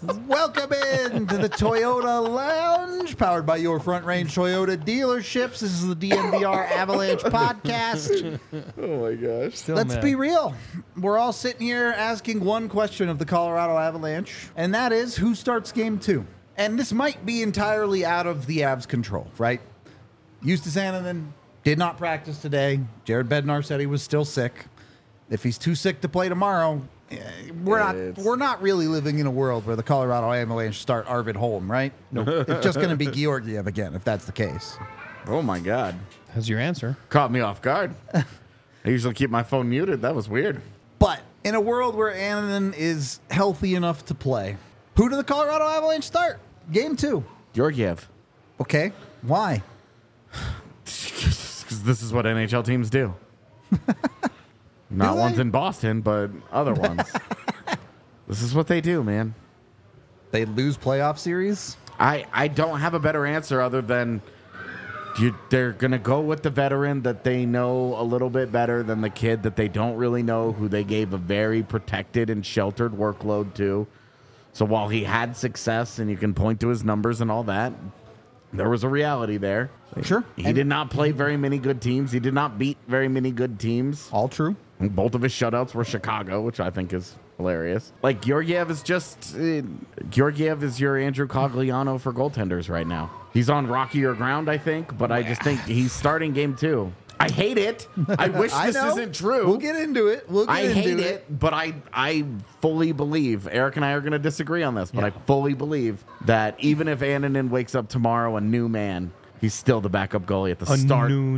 Welcome in to the Toyota Lounge, powered by your Front Range Toyota dealerships. This is the DNVR Avalanche podcast. Oh my gosh. Let's be real. We're all sitting here asking one question of the Colorado Avalanche, and that is, who starts game 2? And this might be entirely out of the Avs' control, right? Justus Annunen did not practice today. Jared Bednar said he was still sick. If he's too sick to play tomorrow, we're not really living in a world where the Colorado Avalanche start Arvid Holm, right? No, it's just going to be Georgiev again if that's the case. Oh my God. That's your answer. Caught me off guard. I usually keep my phone muted. That was weird. But in a world where Annunen is healthy enough to play, who do the Colorado Avalanche start? Game 2. Georgiev. Okay, why? Because this is what NHL teams do. Not Do ones they? in Boston, but other ones. This is what they do, man. They lose playoff series? I don't have a better answer other than they're going to go with the veteran that they know a little bit better than the kid that they don't really know, who they gave a very protected and sheltered workload to. So while he had success and you can point to his numbers and all that, there was a reality there. Sure. He did not play very many good teams. He did not beat very many good teams. All true. Both of his shutouts were Chicago, which I think is hilarious. Like, Georgiev is just... Georgiev is your Andrew Cogliano for goaltenders right now. He's on rockier ground, I think, but I just think he's starting game 2. I hate it. I wish this isn't true. We'll get into it. I hate it, but I fully believe, Eric and I are going to disagree on this, but I fully believe that even if Annunen wakes up tomorrow a new man, he's still the backup goalie at the start. New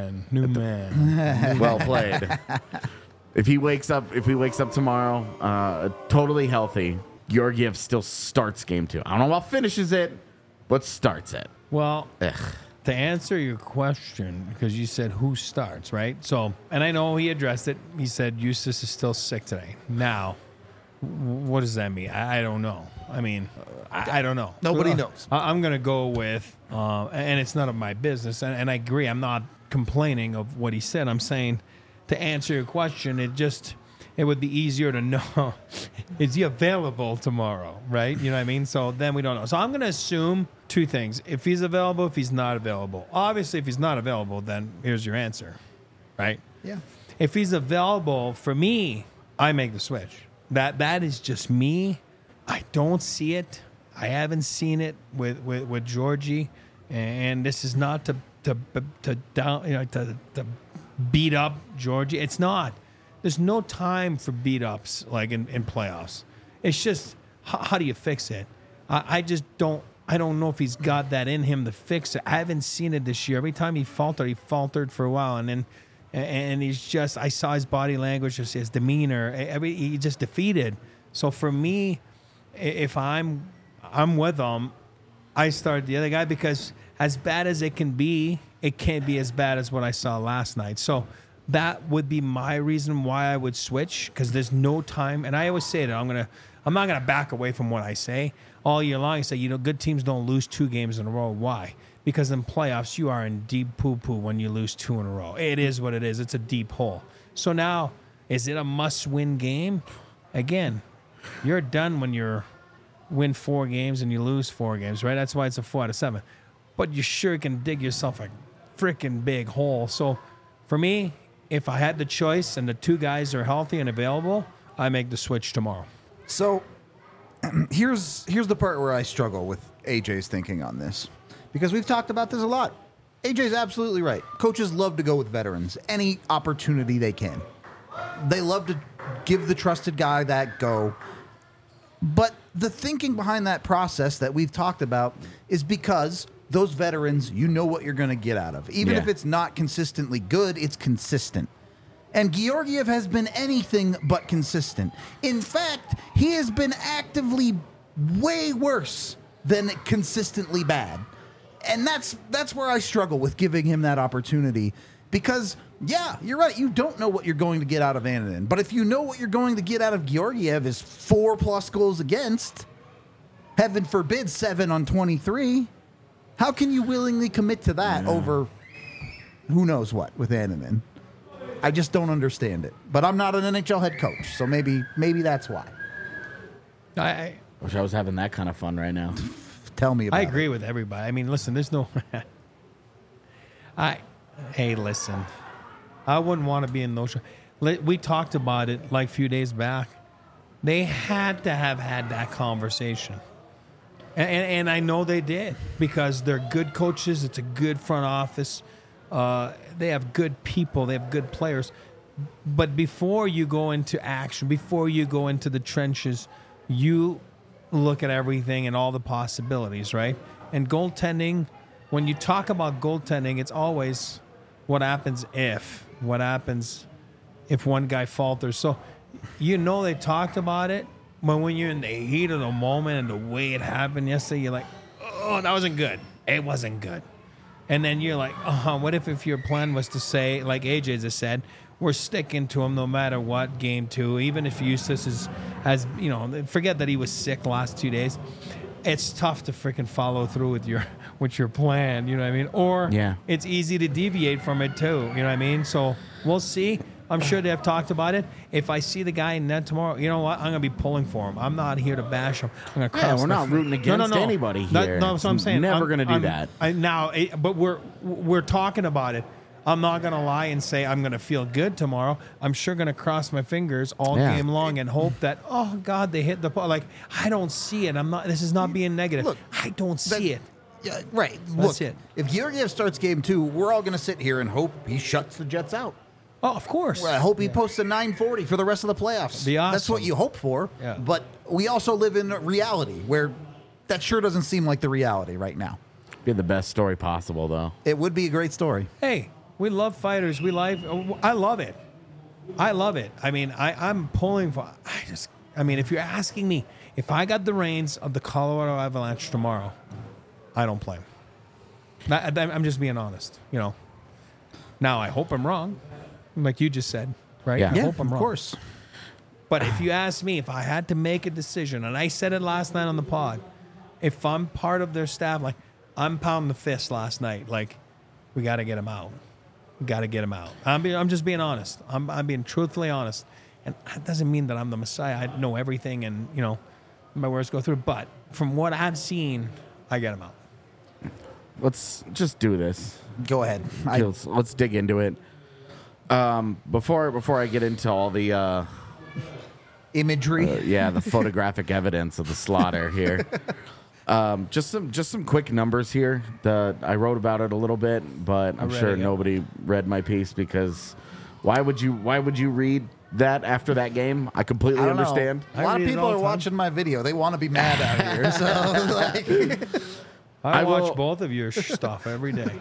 man. Well played. If he wakes up tomorrow totally healthy, Georgiev still starts game 2. I don't know about finishes it, but starts it. Well, to answer your question, because you said who starts, right? So, and I know he addressed it. He said Justus is still sick today. Now, what does that mean? I don't know. I mean, I don't know. Nobody knows. I'm going to go with, and it's none of my business. And I agree. I'm not complaining of what he said. I'm saying, to answer your question, it would be easier to know, is he available tomorrow, right? You know what I mean? So then we don't know. So I'm going to assume two things. If he's available, if he's not available. Obviously, if he's not available, then here's your answer, right? Yeah. If he's available, for me, I make the switch. That is just me. I don't see it. I haven't seen it with Georgie, and this is not to beat up Georgie. It's not. There's no time for beat ups like in playoffs. It's just how do you fix it? I just don't. I don't know if he's got that in him to fix it. I haven't seen it this year. Every time he faltered for a while, and he's just. I saw his body language, just his demeanor. He just defeated. So for me, if I'm with him, I start the other guy, because as bad as it can't be as bad as what I saw last night. So that would be my reason why I would switch, because there's no time. And I always say that I'm not gonna back away from what I say all year long. I say, good teams don't lose 2 games in a row. Why? Because in playoffs you are in deep poo-poo when you lose 2 in a row. It is what it is. It's a deep hole. So now, is it a must-win game? Again, you're done when you win 4 games and you lose 4 games, right? That's why it's a 4 out of 7. But you sure can dig yourself a freaking big hole. So for me, if I had the choice and the 2 guys are healthy and available, I make the switch tomorrow. So here's the part where I struggle with AJ's thinking on this, because we've talked about this a lot. AJ's absolutely right. Coaches love to go with veterans any opportunity they can. They love to give the trusted guy that go. But the thinking behind that process that we've talked about is because those veterans, you know what you're going to get out of. Even if it's not consistently good, it's consistent. And Georgiev has been anything but consistent. In fact, he has been actively way worse than consistently bad. And that's where I struggle with giving him that opportunity. Because, yeah, you're right. You don't know what you're going to get out of Annunen. But if you know what you're going to get out of Georgiev is 4+ goals against, heaven forbid 7 on 23, how can you willingly commit to that over who knows what with Annunen? I just don't understand it. But I'm not an NHL head coach, so maybe that's why. Wish I was having that kind of fun right now. Tell me about I it. agree with everybody. I mean, listen, there's no. Hey, listen. I wouldn't want to be in those. We talked about it like a few days back. They had to have had that conversation. And I know they did because they're good coaches. It's a good front office. They have good people. They have good players. But before you go into action, before you go into the trenches, you look at everything and all the possibilities, right? And goaltending, when you talk about goaltending, it's always what happens if one guy falters. So, they talked about it, but when you're in the heat of the moment and the way it happened yesterday, you're like, oh, that wasn't good. It wasn't good. And then you're like, what if your plan was to say, like AJ just said, we're sticking to him no matter what, game 2, even if Eustace has, forget that he was sick last 2 days. It's tough to freaking follow through with your plan, you know what I mean? Or it's easy to deviate from it too, you know what I mean? So we'll see. I'm sure they have talked about it. If I see the guy in net tomorrow, you know what? I'm going to be pulling for him. I'm not here to bash him. I'm going to cross. We're not rooting against anybody here. No, that's what I'm saying. Never going to do that. But we're talking about it. I'm not going to lie and say I'm going to feel good tomorrow. I'm sure going to cross my fingers all game long and hope that, oh, God, they hit the ball. Like, I don't see it. This is not being negative. Look, I don't see it. Yeah, right. That's Look, it. if Georgiev starts game 2, we're all going to sit here and hope he shuts the Jets out. Oh, of course. I hope he posts a 940 for the rest of the playoffs. Be awesome. That's what you hope for. Yeah. But we also live in reality where that sure doesn't seem like the reality right now. Be the best story possible, though. It would be a great story. Hey, we love fighters. I love it. I love it. I mean, I'm pulling for. If you're asking me, if I got the reins of the Colorado Avalanche tomorrow, I don't play 'em. I'm just being honest. Now I hope I'm wrong, like you just said, right? Yeah. I hope I'm of wrong. course. But if you ask me, if I had to make a decision, and I said it last night on the pod, if I'm part of their staff, like I'm pounding the fist last night, like we got to get him out. We got to get him out. I'm just being honest. I'm being truthfully honest, and that doesn't mean that I'm the Messiah. I know everything, and my words go through. But from what I've seen, I get him out. Let's just do this. Go ahead. Let's dig into it. Before I get into all the Imagery. the photographic evidence of the slaughter here. Just some quick numbers here. I wrote about it a little bit, but I'm sure nobody read my piece because why would you read that after that game? I completely understand. A lot of people are watching my video. They want to be mad out here. So I watch both of your stuff every day.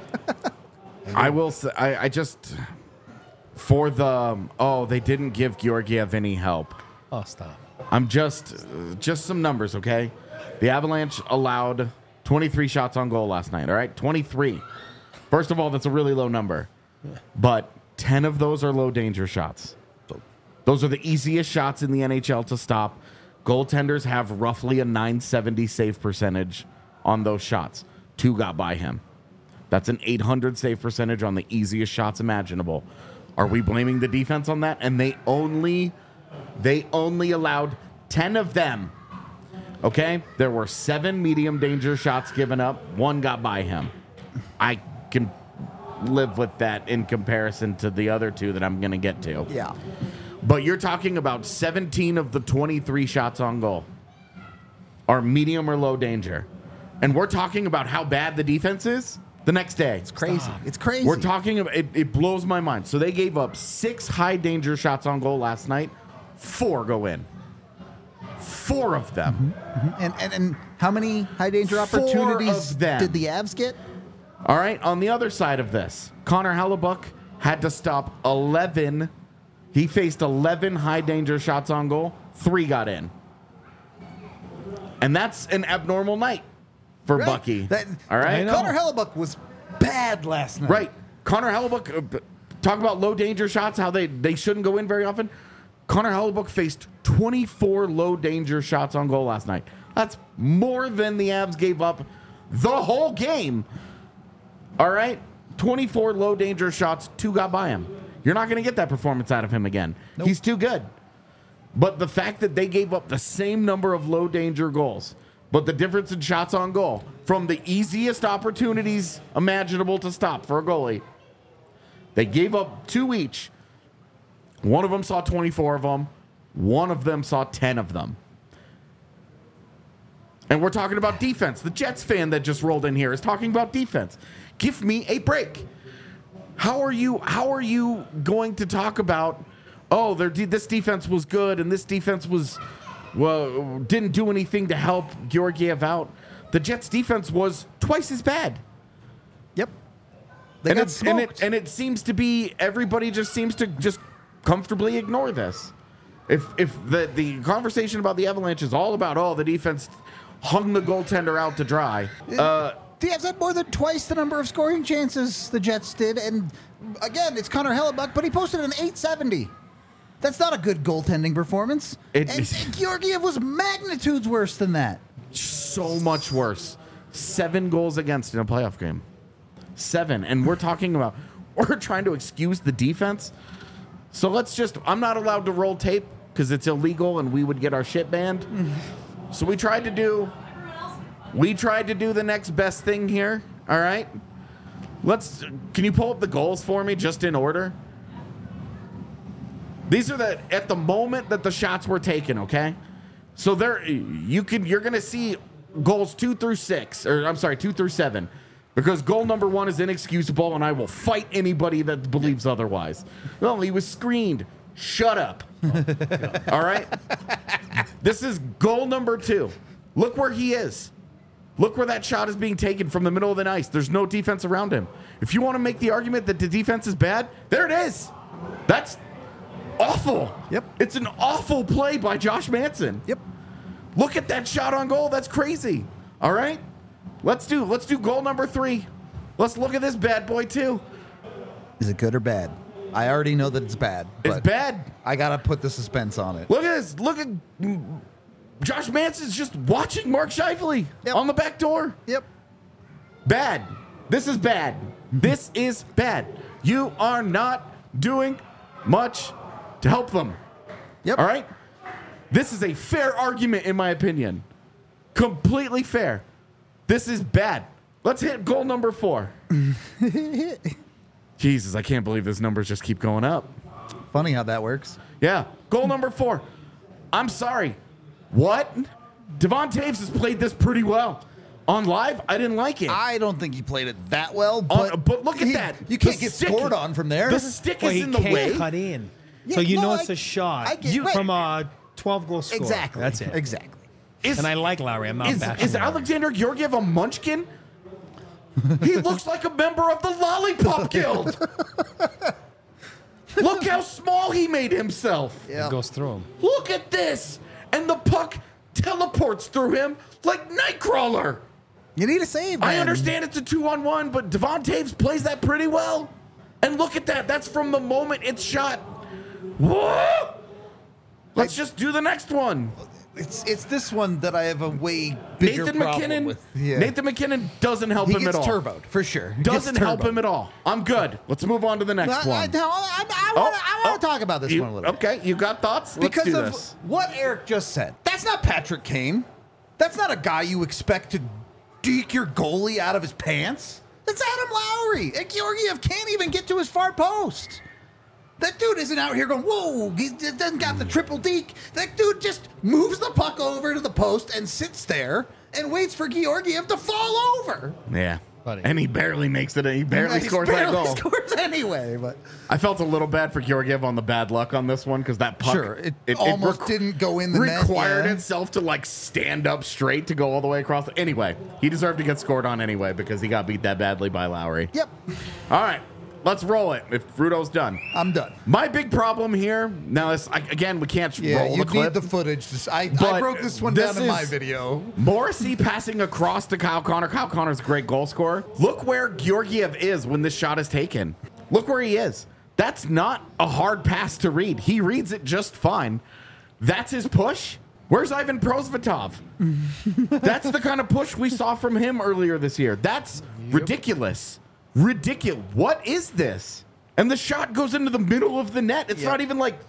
I will say, I just for the they didn't give Georgiev any help. Oh, stop. I'm just some numbers, okay? The Avalanche allowed 23 shots on goal last night, all right? 23. First of all, that's a really low number. But 10 of those are low danger shots. Those are the easiest shots in the NHL to stop. Goaltenders have roughly a .970 save percentage on those shots. 2 got by him. That's an .800 save percentage on the easiest shots imaginable. Are we blaming the defense on that? And they only allowed 10 of them. Okay? There were 7 medium danger shots given up. 1 got by him. I can live with that in comparison to the other 2 that I'm going to get to. yeah. But you're talking about 17 of the 23 shots on goal are medium or low danger. And we're talking about how bad the defense is the next day. It's crazy. Stop. It's crazy. We're talking about it blows my mind. So they gave up 6 high danger shots on goal last night. 4 go in. 4 of them. Mm-hmm. And how many high danger 4 opportunities of them. did the Avs get? All right. On the other side of this, Connor Hellebuck had to stop 11. He faced 11 high danger shots on goal. 3 got in. And that's an abnormal night for Right. Bucky. I All right. know. Connor Hellebuck was bad last night. Right. Connor Hellebuck, talk about low danger shots, how they shouldn't go in very often. Connor Hellebuck faced 24 low danger shots on goal last night. That's more than the Avs gave up the whole game. All right? 24 low danger shots, 2 got by him. You're not going to get that performance out of him again. Nope. He's too good. But the fact that they gave up the same number of low danger goals, but the difference in shots on goal from the easiest opportunities imaginable to stop for a goalie, they gave up 2 each. One of them saw 24 of them. One of them saw 10 of them. And we're talking about defense. The Jets fan that just rolled in here is talking about defense. Give me a break. How are you going to talk about, oh, this defense was good and this defense didn't do anything to help Georgiev out? The Jets defense was twice as bad. Yep. They got smoked. And it seems to be everybody just seems to just comfortably ignore this. If the conversation about the Avalanche is all about, oh, the defense hung the goaltender out to dry. The Avs had more than twice the number of scoring chances the Jets did. And again, it's Connor Hellebuck, but he posted an .870. That's not a good goaltending performance. And Georgiev was magnitudes worse than that. So much worse. 7 goals against in a playoff game. 7. And we're trying to excuse the defense. So I'm not allowed to roll tape because it's illegal and we would get our shit banned. So we tried to do the next best thing here. All right. Can you pull up the goals for me just in order? These are at the moment that the shots were taken, okay? So you're going to see goals 2 through 7, because goal number 1 is inexcusable and I will fight anybody that believes otherwise. Well, he was screened. Shut up. All right? This is goal number 2. Look where he is. Look where that shot is being taken from the middle of the ice. There's no defense around him. If you want to make the argument that the defense is bad, there it is. That's awful. Yep. It's an awful play by Josh Manson. Yep. Look at that shot on goal. That's crazy. All right? Let's do goal number 3. Let's look at this bad boy too. Is it good or bad? I already know that it's bad. It's bad. I got to put the suspense on it. Look at this. Look at Josh Manson's just watching Mark Scheifele on the back door. Yep. Bad. This is bad. This is bad. You are not doing much to help them. Yep. All right? This is a fair argument, in my opinion. Completely fair. This is bad. Let's hit goal number 4. Jesus, I can't believe those numbers just keep going up. Funny how that works. Yeah. Goal number 4. I'm sorry. What? Devon Taves has played this pretty well. On live, I didn't like it. I don't think he played it that well, but look at that. You can't get scored on from there. The stick is in the way. Cut in. Yeah, So no, it's a shot from a 12-goal score. Exactly. That's it. Exactly. And I like Lowry. I'm not bashing Is Lowry. Alexander Georgiev a munchkin? He looks like a member of the Lollipop Guild. Look how small he made himself. Yeah. It goes through him. Look at this. And the puck teleports through him like Nightcrawler. You need a save, man. I understand it's a 2-on-1, but Devon Taves plays that pretty well. And look at that. That's from the moment it's shot. Whoa! Let's just do the next one. It's this one that I have a way bigger problem with. Yeah. Nathan McKinnon doesn't help him at all. He gets turboed, for sure. Doesn't help him at all. I'm good. Let's move on to the next one. I want to talk about this one a little bit. Okay, you got thoughts? Let's Because do of this. what Eric just said. That's not Patrick Kane. That's not a guy you expect to deke your goalie out of his pants. That's Adam Lowry. And Georgiev can't even get to his far post. That dude isn't out here going, whoa, he doesn't got the triple deke. That dude just moves the puck over to the post and sits there and waits for Georgiev to fall over. Yeah. Buddy. And he barely makes it. He barely scores that goal. Scores anyway, but I felt a little bad for Georgiev on the bad luck on this one because that puck sure, it almost didn't go in the net. Required Yeah. itself to like stand up straight to go all the way across. Anyway, he deserved to get scored on anyway because he got beat that badly by Lowry. Yep. All right, let's roll it. If Rudo's done, I'm done. My big problem here now is again we can't roll you the clip. need the footage. I But broke this one this down in my is- video. Morrissey passing across to Kyle Connor. Kyle Connor's a great goal scorer. Look where Georgiev is when this shot is taken. Look where he is. That's not a hard pass to read. He reads it just fine. That's his push. Where's Ivan Prosvetov? That's the kind of push we saw from him earlier this year. That's ridiculous. Ridiculous. What is this? And the shot goes into the middle of the net. It's not even like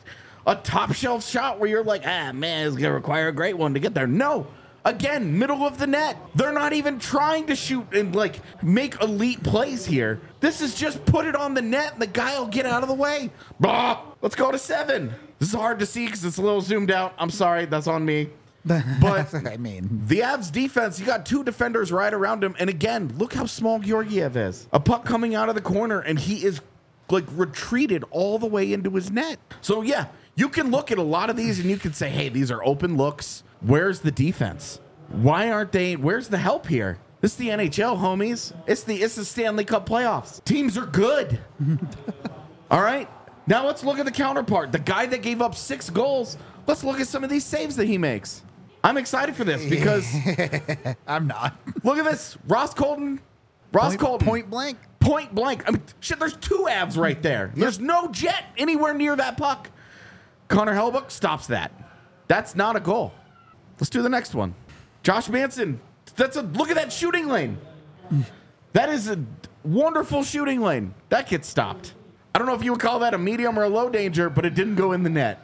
a top shelf shot where you're like, man, it's going to require a great one to get there. No. Again, middle of the net. They're not even trying to shoot and like make elite plays here. This is just put it on the net and the guy will get out of the way. Bah! Let's go to 7. This is hard to see because it's a little zoomed out. I'm sorry. That's on me. But I mean, the Avs defense, you got 2 defenders right around him. And again, look how small Georgiev is. A puck coming out of the corner, and he is like retreated all the way into his net. So yeah, you can look at a lot of these and you can say, hey, these are open looks. Where's the defense? Why aren't they? Where's the help here? This is the NHL, homies. It's the Stanley Cup playoffs. Teams are good. All right. Now let's look at the counterpart. The guy that gave up 6 goals. Let's look at some of these saves that he makes. I'm excited for this because I'm not. look at this. Ross Colton. Point blank. Point blank. I mean, shit, there's 2 Avs right there. There's no jet anywhere near that puck. Connor Hellebuyck stops that. That's not a goal. Let's do the next one. Josh Manson. Look at that shooting lane. That is a wonderful shooting lane. That gets stopped. I don't know if you would call that a medium or a low danger, but it didn't go in the net.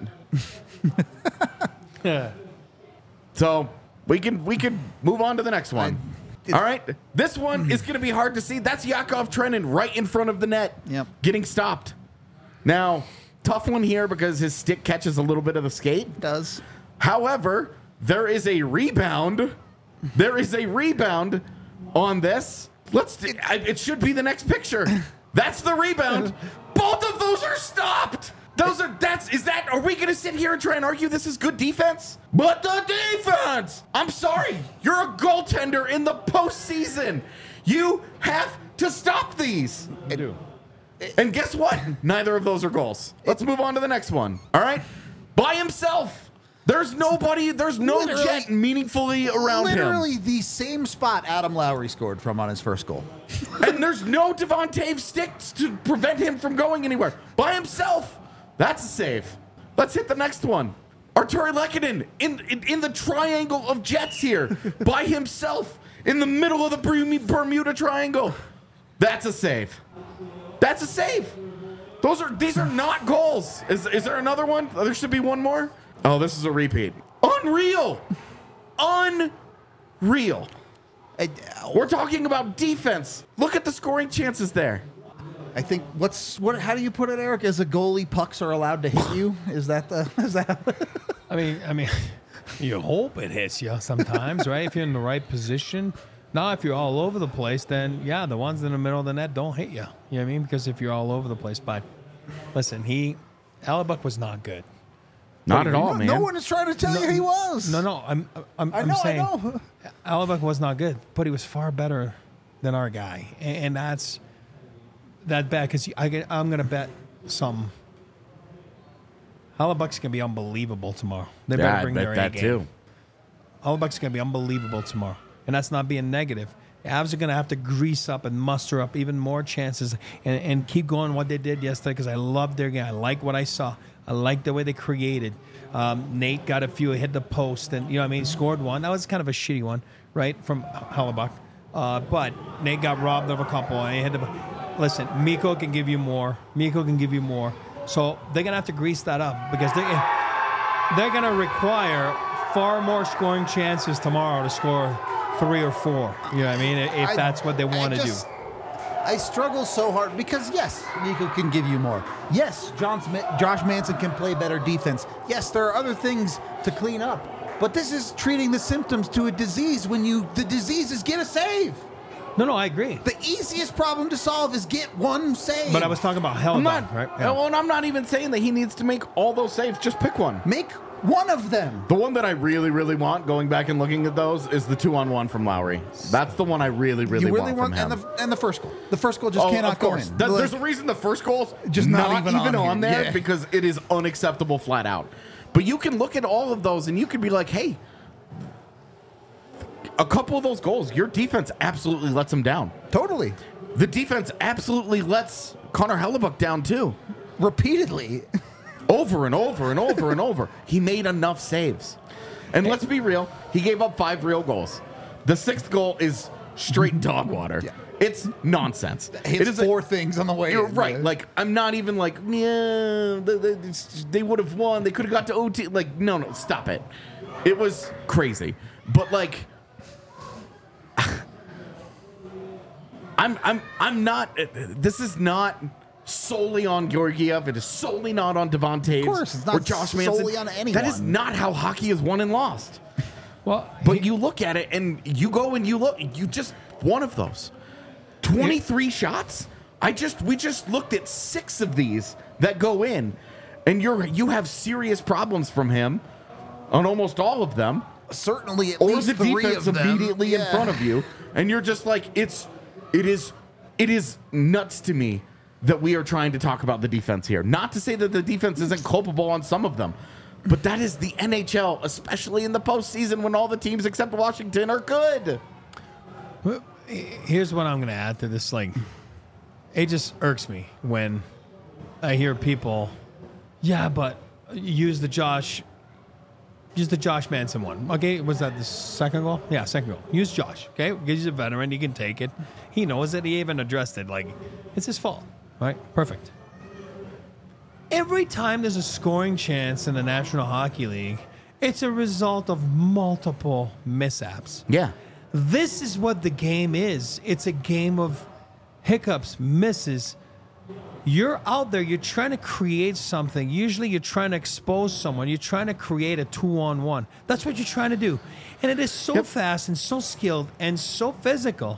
Yeah. So we can move on to the next one. All right. This one is going to be hard to see. That's Yakov Trenin right in front of the net. Yep. Getting stopped. Now, tough one here because his stick catches a little bit of the skate. Does. However, there is a rebound. There is a rebound on this. It should be the next picture. That's the rebound. Both of those are stopped. Are we going to sit here and try and argue this is good defense? But the defense! I'm sorry. You're a goaltender in the postseason. You have to stop these. I do. And guess what? Neither of those are goals. Let's move on to the next one. All right? By himself. There's no jet meaningfully around him. Literally the same spot Adam Lowry scored from on his first goal. And there's no Devontae sticks to prevent him from going anywhere. By himself. That's a save. Let's hit the next one. Arturi Lehkonen in the triangle of jets here. By himself. In the middle of the Bermuda Triangle. That's a save. That's a save. These are not goals. Is there another one? There should be one more. Oh, this is a repeat. Unreal. Unreal. We're talking about defense. Look at the scoring chances there. I think how do you put it, Eric? As a goalie, pucks are allowed to hit you? Is that? I mean, you hope it hits you sometimes, right? If you're in the right position. Now, if you're all over the place, then yeah, the ones in the middle of the net don't hit you. You know what I mean? Because if you're all over the place, but listen, Hellebuyck was not good. Not at all, man. No one is trying to tell you he was. No, I'm saying I know. Hellebuyck was not good, but he was far better than our guy, and that's that bad because I'm going to bet some. Hellebuyck's going to be unbelievable tomorrow. They better bring their A game. Too. Hellebuyck's going to be unbelievable tomorrow, and that's not being negative. The Avs are going to have to grease up and muster up even more chances and keep going what they did yesterday because I love their game. I like what I saw. I like the way they created. Nate got a few, hit the post, and scored one. That was kind of a shitty one, right, from Hellebuyck. But Nate got robbed of a couple. And he had to, listen, Mikko can give you more. So they're gonna have to grease that up because they're gonna require far more scoring chances tomorrow to score 3 or 4. You know what I mean? If that's what they want to do. I struggle so hard because, yes, Mikko can give you more. Yes, Josh Manson can play better defense. Yes, there are other things to clean up. But this is treating the symptoms to a disease when the disease is get a save. No, I agree. The easiest problem to solve is get one save. But I was talking about Hellebuyck, right? Yeah. Well, and I'm not even saying that he needs to make all those saves. Just pick one. Make one of them. The one that I really, really want, going back and looking at those, is the 2-on-1 from Lowry. That's the one I really, really want from him. And the first goal. The first goal just cannot go in. There's a reason the first goal's just not even on there because it is unacceptable flat out. But you can look at all of those and you can be like, hey, a couple of those goals, your defense absolutely lets them down. Totally. The defense absolutely lets Connor Hellebuyck down too. Repeatedly. Over and over and over and over. He made enough saves. And let's be real, he gave up 5 real goals. The 6th goal is straight dog water. Yeah. It's nonsense. Hits It is four things on the way. You're in. right. Like, I'm not even like, yeah, they would have won. They could have got to OT. Like, no, stop it. It was crazy. But like, I'm not. This is not solely on Georgiev. It is solely not on Devontae. Of course, it's not or Josh Manson. solely on anyone. That is not how hockey is won and lost. Well, But you look at it and you go and you look. You just one of those 23 shots. We just looked at 6 of these that go in, and you have serious problems from him on almost all of them. Certainly, at Or least the 3 defense of them. immediately in front of you, and you're just like, it is nuts to me that we are trying to talk about the defense here. Not to say that the defense isn't culpable on some of them, but that is the NHL, especially in the postseason when all the teams except Washington are good. here's what I'm going to add to this. Like, it just irks me when I hear people, yeah, but use the Josh Manson one. Okay, was that the second goal? Yeah, second goal. Use Josh. Okay, he's a veteran. He can take it. He knows it. He even addressed it. Like, it's his fault. Right? Perfect. Every time there's a scoring chance in the National Hockey League, it's a result of multiple mishaps. Yeah. This is what the game is. It's a game of hiccups, misses. You're out there, you're trying to create something. Usually you're trying to expose someone. You're trying to create a 2-on-1. That's what you're trying to do. And it is so fast and so skilled and so physical.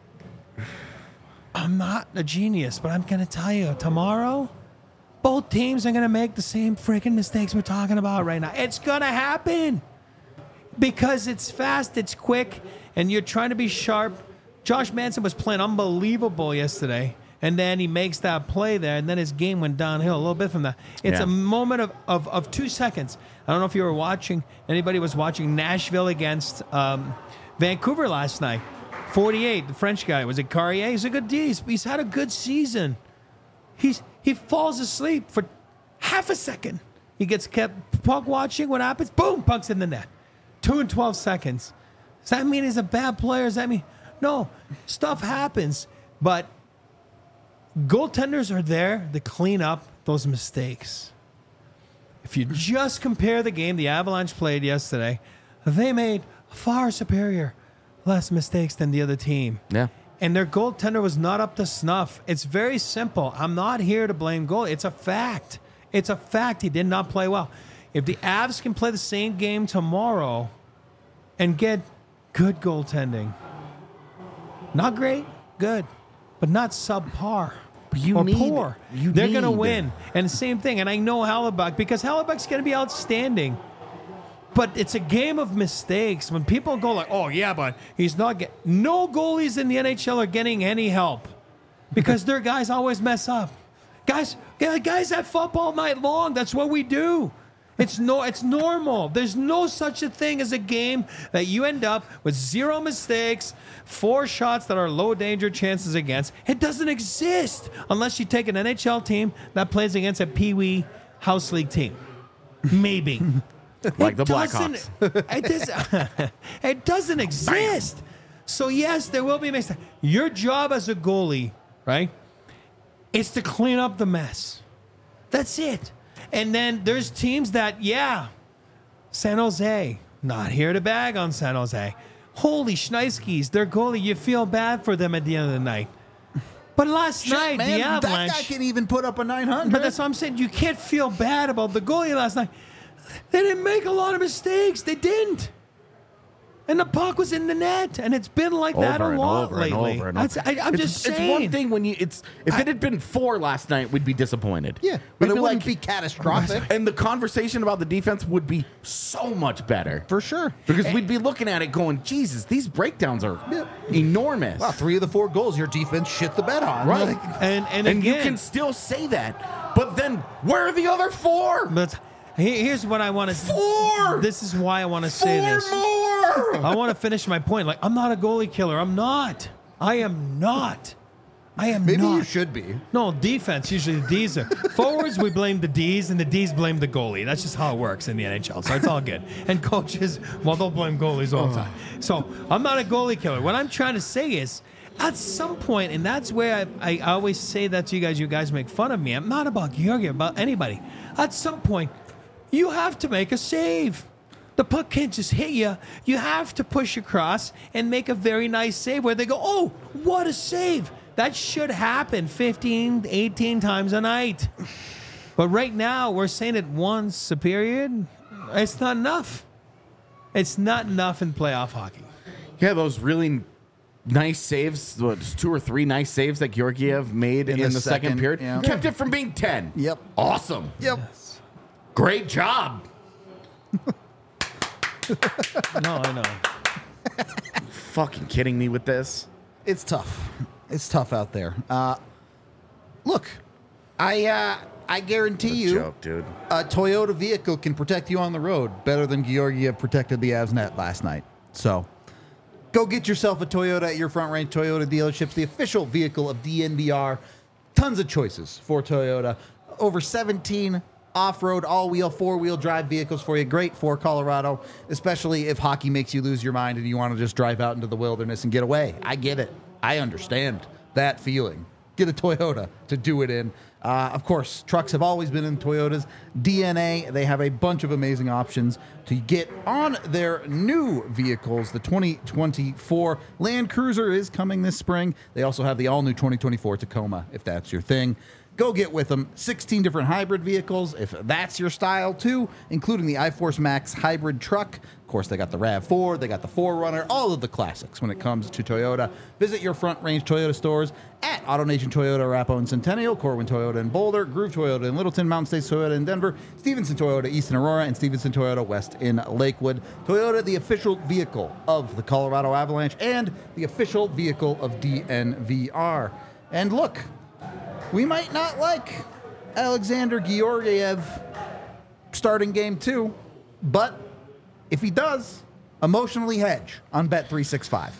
I'm not a genius, but I'm going to tell you, tomorrow, both teams are going to make the same freaking mistakes we're talking about right now. It's going to happen because it's fast, it's quick, and you're trying to be sharp. Josh Manson was playing unbelievable yesterday, and then he makes that play there, and then his game went downhill a little bit from that. It's a moment of 2 seconds. I don't know if you were watching, anybody was watching Nashville against Vancouver last night. 48, the French guy. Was it Carrier? He's a good D. He's had a good season. He falls asleep for half a second. He gets kept puck watching. What happens? Boom, puck's in the net. 2 and 12 seconds. Does that mean he's a bad player? Does that mean... No, stuff happens. But goaltenders are there to clean up those mistakes. If you just compare the game the Avalanche played yesterday, they made far superior less mistakes than the other team. Yeah. And their goaltender was not up to snuff. It's very simple. I'm not here to blame goalie. It's a fact. It's a fact. He did not play well. If the Avs can play the same game tomorrow and get good goaltending, not great, good, but not subpar or poor, they're going to win. And the same thing. And I know Hellebuck, because Hellebuck's going to be outstanding. But it's a game of mistakes. When people go like, oh, yeah, but he's not getting... No goalies in the NHL are getting any help because their guys always mess up. Guys have football night long. That's what we do. It's normal. There's no such a thing as a game that you end up with 0 mistakes, 4 shots that are low danger chances against. It doesn't exist unless you take an NHL team that plays against a Pee Wee House League team. Maybe. Like the Blackhawks. It doesn't exist. Bam. So, yes, there will be mistakes. Your job as a goalie, right, is to clean up the mess. That's it. And then there's teams that, San Jose, not here to bag on San Jose. Holy Schneisky's, their goalie, you feel bad for them at the end of the night. But last night, man, the Avalanche... that guy can even put up a 900. But that's what I'm saying. You can't feel bad about the goalie last night. They didn't make a lot of mistakes. They didn't. And the puck was in the net, and it's been like that a lot lately. I'm just saying. It's one thing when if it had been 4 last night, we'd be disappointed. Yeah, but it wouldn't be catastrophic. And the conversation about the defense would be so much better. For sure. Because we'd be looking at it going, Jesus, these breakdowns are enormous. Wow, 3 of the 4 goals your defense shit the bed on. Right. And again, you can still say that. But then, where are the other 4? But here's what I want to... 4! This is why I want to say this. 4 more! I want to finish my point. Like, I'm not a goalie killer. I'm not. I am not. I am Maybe not. you should be. No, defense. Usually the D's are. Forwards, we blame the D's, and the D's blame the goalie. That's just how it works in the NHL, so it's all good. And coaches, well, they'll blame goalies all the time. So I'm not a goalie killer. What I'm trying to say is, at some point, and that's where I always say that to you guys make fun of me. I'm not about Georgi, about anybody. At some point, you have to make a save. The puck can't just hit you. You have to push across and make a very nice save where they go, oh, what a save. That should happen 15, 18 times a night. But right now, we're saying it once a period. It's not enough. It's not enough in playoff hockey. Yeah, those really nice saves, 2 or 3 nice saves that Georgiev made in the second period, yeah. kept it from being 10. Yep. Awesome. Yep. Great job. No, I know. Fucking kidding me with this? It's tough. It's tough out there. Look, I guarantee you, Joke, dude. a Toyota vehicle can protect you on the road better than Georgiev protected the Avs net last night. So, go get yourself a Toyota at your Front Range Toyota dealerships, the official vehicle of DNVR. Tons of choices for Toyota. Over 17 off-road, all-wheel, four-wheel drive vehicles for you. Great for Colorado, especially if hockey makes you lose your mind and you want to just drive out into the wilderness and get away. I get it. I understand that feeling. Get a Toyota to do it in. Of course, trucks have always been in Toyota's DNA. They have a bunch of amazing options to get on their new vehicles. The 2024 Land Cruiser is coming this spring. They also have the all-new 2024 Tacoma, if that's your thing. Go get with them. 16 different hybrid vehicles, if that's your style too, including the iForce Max hybrid truck. Of course, they got the RAV4, they got the 4Runner, all of the classics when it comes to Toyota. Visit your Front Range Toyota stores at AutoNation Toyota, Arapahoe and Centennial, Corwin Toyota in Boulder, Groove Toyota in Littleton, Mountain States Toyota in Denver, Stevenson Toyota East in Aurora, and Stevenson Toyota West in Lakewood. Toyota, the official vehicle of the Colorado Avalanche and the official vehicle of DNVR. And look, we might not like Alexander Georgiev starting game 2, but if he does, emotionally hedge on Bet365.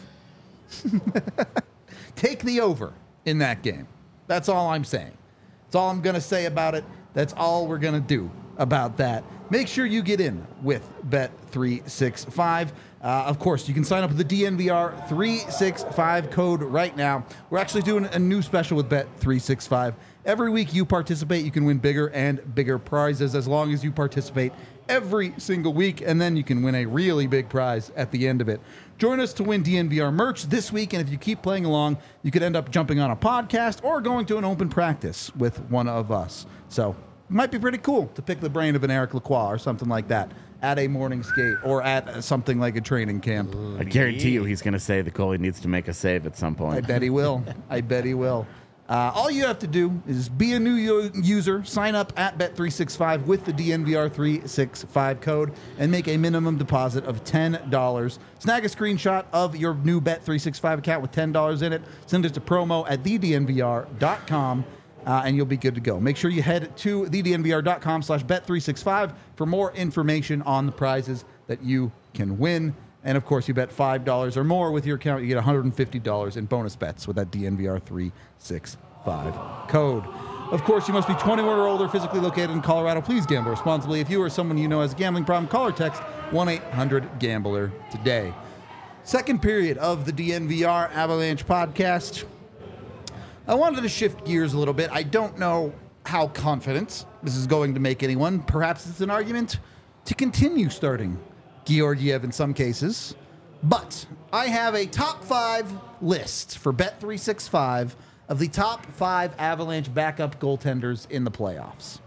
Take the over in that game. That's all I'm saying. That's all I'm going to say about it. That's all we're going to do about that. Make sure you get in with Bet365. Of course, you can sign up with the DNVR 365 code right now. We're actually doing a new special with Bet365. Every week you participate, you can win bigger and bigger prizes as long as you participate every single week, and then you can win a really big prize at the end of it. Join us to win DNVR merch this week, and if you keep playing along, you could end up jumping on a podcast or going to an open practice with one of us. So it might be pretty cool to pick the brain of an Eric Lacroix or something like that at a morning skate or at something like a training camp. I guarantee you he's going to say the goalie needs to make a save at some point. I bet he will. I bet he will. All you have to do is be a new user, sign up at Bet365 with the DNVR 365 code, and make a minimum deposit of $10. Snag a screenshot of your new Bet365 account with $10 in it. Send it to promo at thednvr.com, and you'll be good to go. Make sure you head to thednvr.com/Bet365 for more information on the prizes that you can win. And, of course, you bet $5 or more with your account, you get $150 in bonus bets with that DNVR 365 code. Of course, you must be 21 or older, physically located in Colorado. Please gamble responsibly. If you or someone you know has a gambling problem, call or text 1-800-GAMBLER today. Second period of the DNVR Avalanche podcast. I wanted to shift gears a little bit. I don't know how confident this is going to make anyone. Perhaps it's an argument to continue starting Georgiev in some cases, but I have a top 5 list for Bet365 of the top 5 Avalanche backup goaltenders in the playoffs.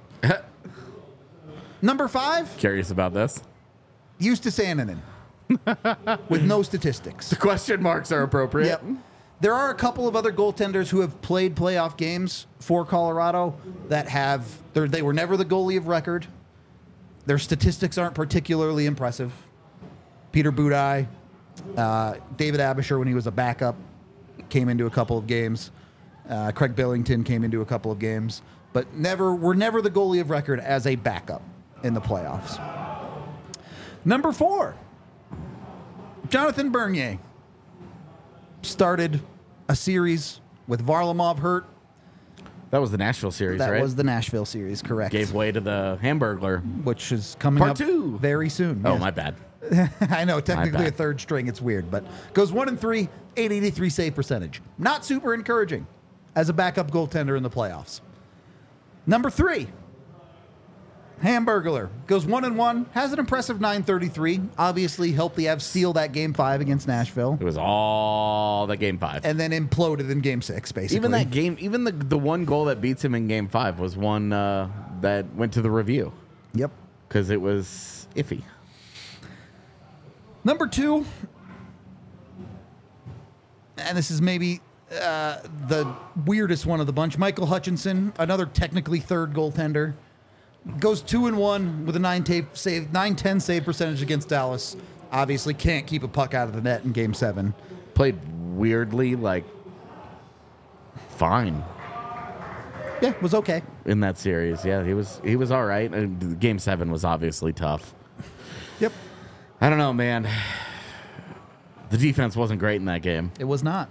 Number 5, Curious about this. Justus Annunen, with no statistics. The question marks are appropriate. Yep. There are a couple of other goaltenders who have played playoff games for Colorado that they were never the goalie of record. Their statistics aren't particularly impressive. Peter Budaj, David Abisher, when he was a backup, came into a couple of games. Craig Billington came into a couple of games, but were never the goalie of record as a backup in the playoffs. Number 4, Jonathan Bernier started a series With Varlamov hurt, That was the Nashville series, that right? was the Nashville series, correct? Gave way to the Hamburglar. Which is coming Part up 2. very soon. Oh, yes. my bad. I know, technically a bad. third string, it's weird, but goes 1-3, 883 save percentage. Not super encouraging as a backup goaltender in the playoffs. Number 3, Hamburglar goes 1-1, has an impressive 933. Obviously helped the Avs steal that game 5 against Nashville, It was all the game 5. and then imploded in game 6, basically. Even that game, even the one goal that beats him in game 5 was one that went to the review Yep. because it was iffy. Number 2, and this is maybe the weirdest one of the bunch, Michael Hutchinson, another technically third goaltender, goes 2-1 with a 910 save percentage against Dallas. Obviously can't keep a puck out of the net in game 7. Played weirdly, like, fine Yeah, was okay. in that series. Yeah, he was all right. Game 7 was obviously tough. Yep. I don't know, man. The defense wasn't great in that game. It was not.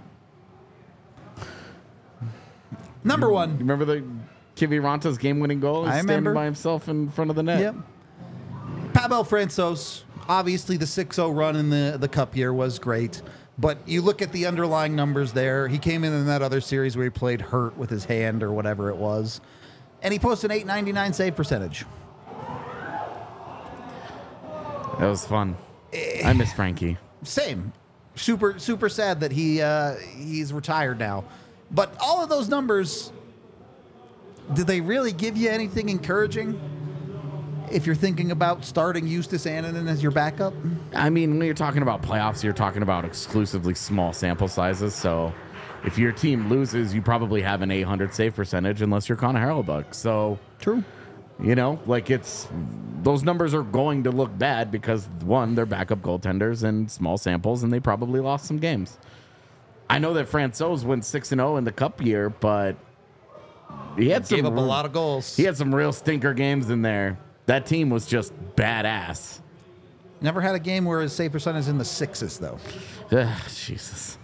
Number 1. You remember the Kiviranta's game-winning goal? He's I standing remember. by himself in front of the net. Yep. Pavel Francouz, obviously the 6-0 run in the cup year was great, but you look at the underlying numbers there. He came in that other series where he played hurt with his hand or whatever it was, and he posted an 899 save percentage. That was fun. I miss Frankie. Same. Super sad that he's retired now. But all of those numbers, did they really give you anything encouraging if you're thinking about starting Justus Annunen as your backup? I mean, when you're talking about playoffs, you're talking about exclusively small sample sizes. So if your team loses, you probably have an 800 save percentage unless you're Connor Hellebuyck. So, True. you know, like those numbers are going to look bad because, one, they're backup goaltenders and small samples, and they probably lost some games. I know that Francouz went 6-0 in the cup year, but he had Gave up a lot of goals. He had some real stinker games in there. That team was just badass. Never had a game where his save percentage is in the 6s, though. Ugh, Jesus.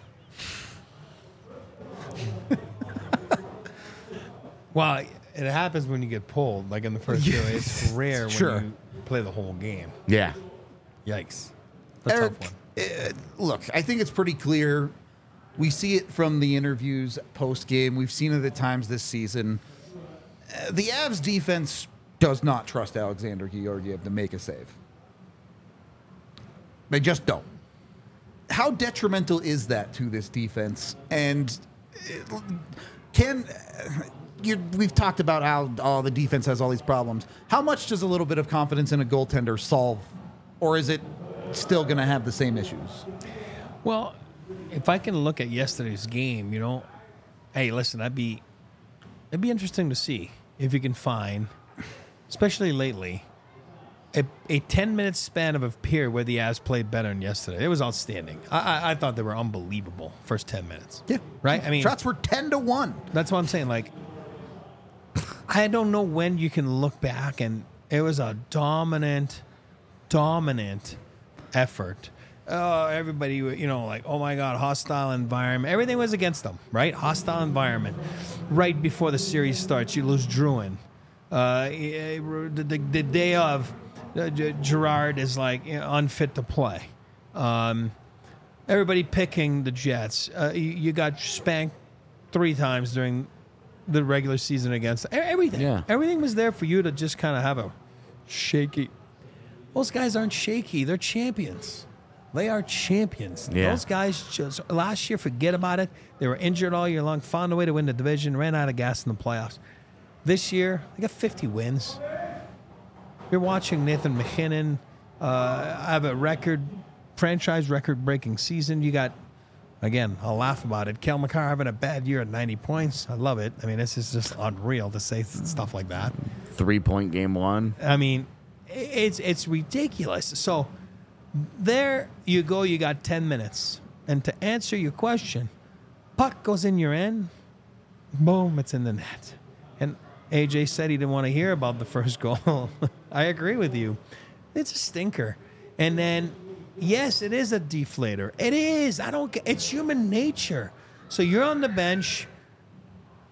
Well, it happens when you get pulled, like in the first year. It's rare when Sure. you play the whole game. Yeah. Yikes. A Eric, tough one. look, I think it's pretty clear. We see it from the interviews post game. We've seen it at times this season. The Avs defense does not trust Alexander Georgiev to make a save. They just don't. How detrimental is that to this defense? And we've talked about how the defense has all these problems. How much does a little bit of confidence in a goaltender solve? Or is it still going to have the same issues? Well, if I can look at yesterday's game, hey, listen, it'd be interesting to see if you can find, especially lately, a 10-minute span of a period where the Avs played better than yesterday. It was outstanding. I thought they were unbelievable first 10 minutes. Yeah. Right? I mean, Shots were 10-1. that's what I'm saying. Like, I don't know when you can look back and it was a dominant effort. Everybody, like, oh my God, hostile environment. Everything was against them, right? Hostile environment. Right before the series starts, you lose Druin. The day of, Gerard is like unfit to play. Everybody picking the Jets. You got spanked 3 times during the regular season against everything. Yeah. Everything was there for you to just kind of have a shaky. Those guys aren't shaky. They're champions. They are champions. Yeah. Those guys just last year, forget about it. They were injured all year long, found a way to win the division, ran out of gas in the playoffs. This year, they got 50 wins. You're watching Nathan McKinnon have a franchise record-breaking season. You got, again, I'll laugh about it, Kel McCarr having a bad year at 90 points. I love it. I mean, this is just unreal to say stuff like that. 3-point game 1. I mean, it's ridiculous. So there you go. You got 10 minutes. And to answer your question, puck goes in your end. Boom, it's in the net. And AJ said he didn't want to hear about the first goal. I agree with you. It's a stinker. And then, yes, it is a deflator. It is. It's human nature. So you're on the bench.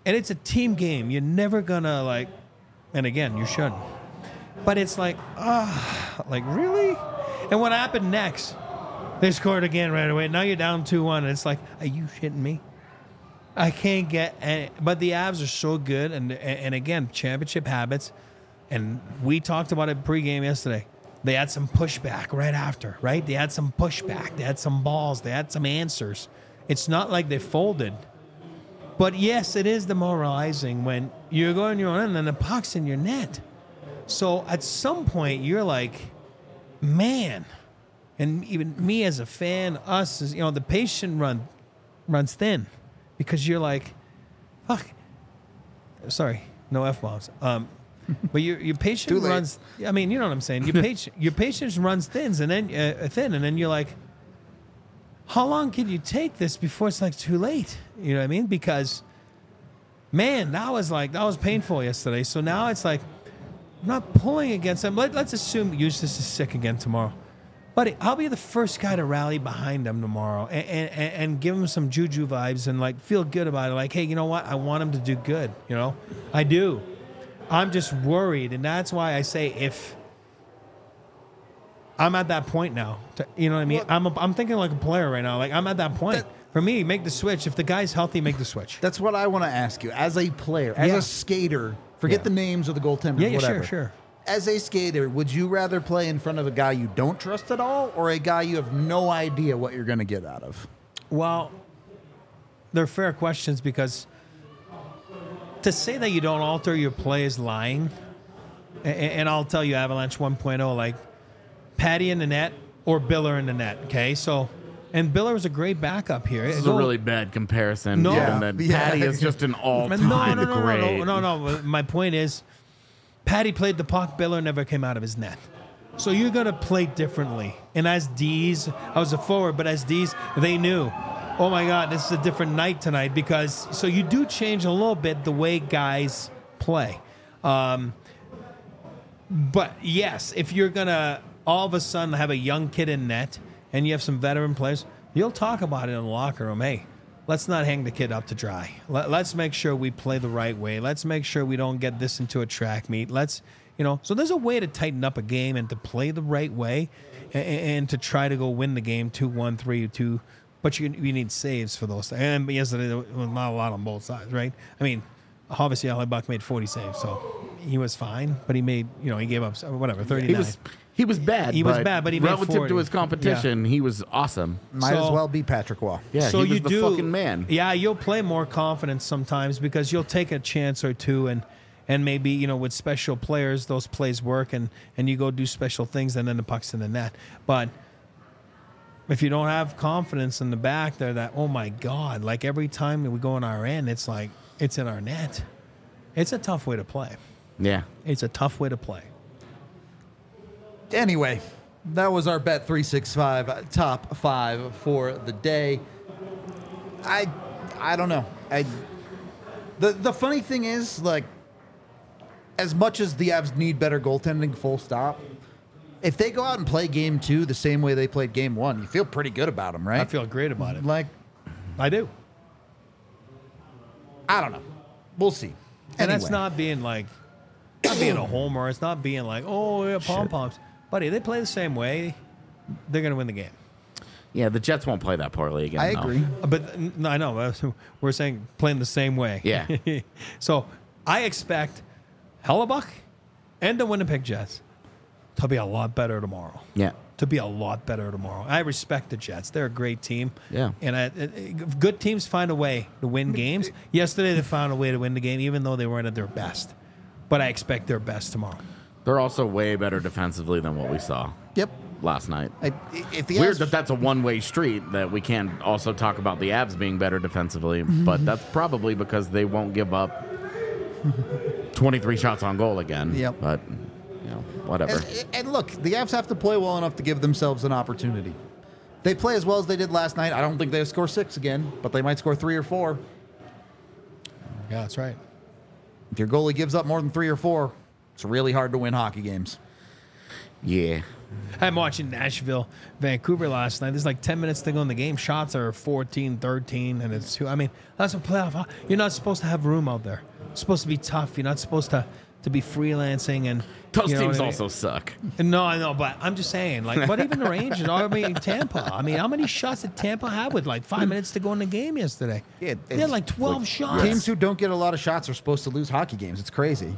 and it's a team game. You're never gonna like, and again, you shouldn't. But it's like, like really? And what happened next? They scored again right away. Now you're down 2-1, and it's like, are you shitting me? I can't get. But the Avs are so good, and again, championship habits. And we talked about it pregame yesterday. They had some pushback right after, right? They had some pushback. They had some balls. They had some answers. It's not like they folded. But yes, it is demoralizing when you're going your own end and the puck's in your net. So at some point, you're like, man, and even me as a fan, us, as, the patient runs thin because you're like, fuck. Sorry, no F-bombs. But your patient runs. I mean, you know what I'm saying. Your patience runs thin, and then you're like, how long can you take this before it's like too late? You know what I mean? Because, man, that was painful yesterday. So now it's like, I'm not pulling against them. Let's assume Eustace is sick again tomorrow. Buddy, I'll be the first guy to rally behind him tomorrow and give him some juju vibes and like feel good about it. Like, hey, you know what? I want him to do good. I do. I'm just worried, and that's why I say if I'm at that point now, you know what I mean? I'm thinking like a player right now. Like I'm at that point. For me, make the switch. If the guy's healthy, make the switch. That's what I want to ask you. As a player, as a skater, forget the names of the goaltenders, whatever. Sure. As a skater, would you rather play in front of a guy you don't trust at all or a guy you have no idea what you're going to get out of? Well, they're fair questions because to say that you don't alter your play is lying. And I'll tell you, Avalanche 1.0, like Patty in the net or Biller in the net, okay? So, and Biller was a great backup here. This is a really bad comparison. No. Given that Patty is just an all-time great. No. My point is, Patty played the puck. Biller never came out of his net. So you're going to play differently. And as D's, I was a forward, but as D's, they knew, oh my God, this is a different night tonight because, so you do change a little bit the way guys play. But yes, if you're going to all of a sudden have a young kid in net and you have some veteran players, you'll talk about it in the locker room. Hey, let's not hang the kid up to dry. Let's make sure we play the right way. Let's make sure we don't get this into a track meet. So there's a way to tighten up a game and to play the right way and to try to go win the game 2-1, 3-2. But you need saves for those. And yesterday, there was not a lot on both sides, right? I mean, obviously, Buck made 40 saves, so he was fine. But he made, he gave up, 39. He was bad. He was bad, but he made 40. Relative to his competition, he was awesome. Might as well be Patrick Waugh. Yeah, so he was the fucking man. Yeah, you'll play more confidence sometimes because you'll take a chance or two and maybe, with special players, those plays work and you go do special things and then the puck's in the net. But if you don't have confidence in the back there that, oh my God, like every time we go on our end, it's like it's in our net. It's a tough way to play. Yeah. It's a tough way to play. Anyway, that was our Bet365 top 5 for the day. I don't know. The funny thing is, like, as much as the Avs need better goaltending, full stop, if they go out and play game 2 the same way they played game 1, you feel pretty good about them, right? I feel great about it. Like, I do. I don't know. We'll see. And that's not being a homer. It's not being like, oh, yeah, pom-poms. Buddy, they play the same way, they're going to win the game. Yeah, the Jets won't play that poorly again. I agree. But no, I know. We're saying playing the same way. Yeah. So I expect Hellebuck and the Winnipeg Jets to be a lot better tomorrow. Yeah. To be a lot better tomorrow. I respect the Jets. They're a great team. Yeah. And good teams find a way to win games. Yesterday they found a way to win the game, even though they weren't at their best. But I expect their best tomorrow. They're also way better defensively than what we saw. Yep. Last night. If the Weird Avs, that that's a one-way street, that we can't also talk about the Avs being better defensively, but that's probably because they won't give up 23 shots on goal again. Yep. But, whatever. And look, the Avs have to play well enough to give themselves an opportunity. They play as well as they did last night. I don't think they'll score 6 again, but they might score 3 or 4. Yeah, that's right. If your goalie gives up more than 3 or 4, it's really hard to win hockey games. Yeah. I'm watching Nashville, Vancouver last night. There's like 10 minutes to go in the game. Shots are 14, 13, and it's two. I mean, that's a playoff. You're not supposed to have room out there. It's supposed to be tough. You're not supposed to be freelancing and Those you know teams what I mean? also suck. No, I know, but I'm just saying, like, but even the Rangers, I mean, Tampa. I mean, how many shots did Tampa have with like 5 minutes to go in the game yesterday? Yeah, They had like 12 shots. Teams who don't get a lot of shots are supposed to lose hockey games. It's crazy.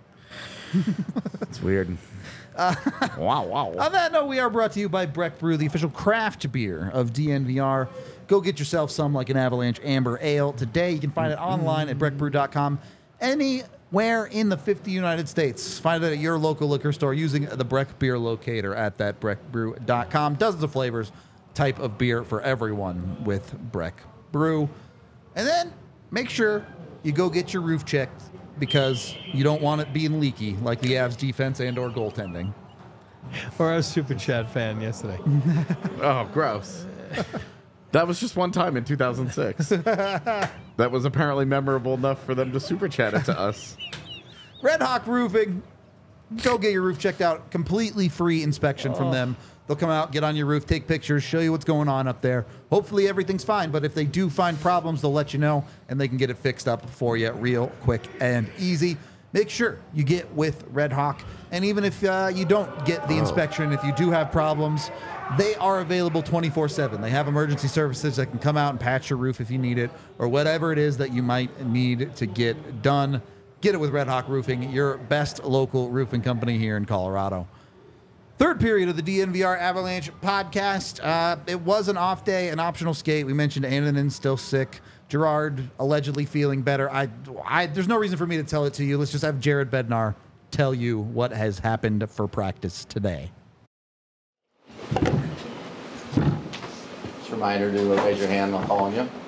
It's weird. Wow. On that note, we are brought to you by Breck Brew, the official craft beer of DNVR. Go get yourself some like an Avalanche Amber Ale today. You can find it online at breckbrew.com. Anywhere in the 50 United States. Find it at your local liquor store using the Breck Beer Locator at that breckbrew.com. Dozens of flavors, type of beer for everyone with Breck Brew. And then make sure you go get your roof checked because you don't want it being leaky like the Avs defense and or goaltending. Or I was a Super Chat fan yesterday. Oh, gross. That was just one time in 2006. That was apparently memorable enough for them to super chat it to us. Red Hawk Roofing. Go get your roof checked out. Completely free inspection from them. They'll come out, get on your roof, take pictures, show you what's going on up there. Hopefully everything's fine, but if they do find problems, they'll let you know, and they can get it fixed up for you real quick and easy. Make sure you get with Red Hawk, and even if you don't get the inspection, if you do have problems, they are available 24/7. They have emergency services that can come out and patch your roof if you need it, or whatever it is that you might need to get done. Get it with Red Hawk Roofing, your best local roofing company here in Colorado. Third period of the DNVR Avalanche podcast. It was an off day, an optional skate. We mentioned Annunen still sick. Gerard allegedly feeling better. There's no reason for me to tell it to you. Let's just have Jared Bednar tell you what has happened for practice today. Just a reminder to raise your hand. I'll call on you.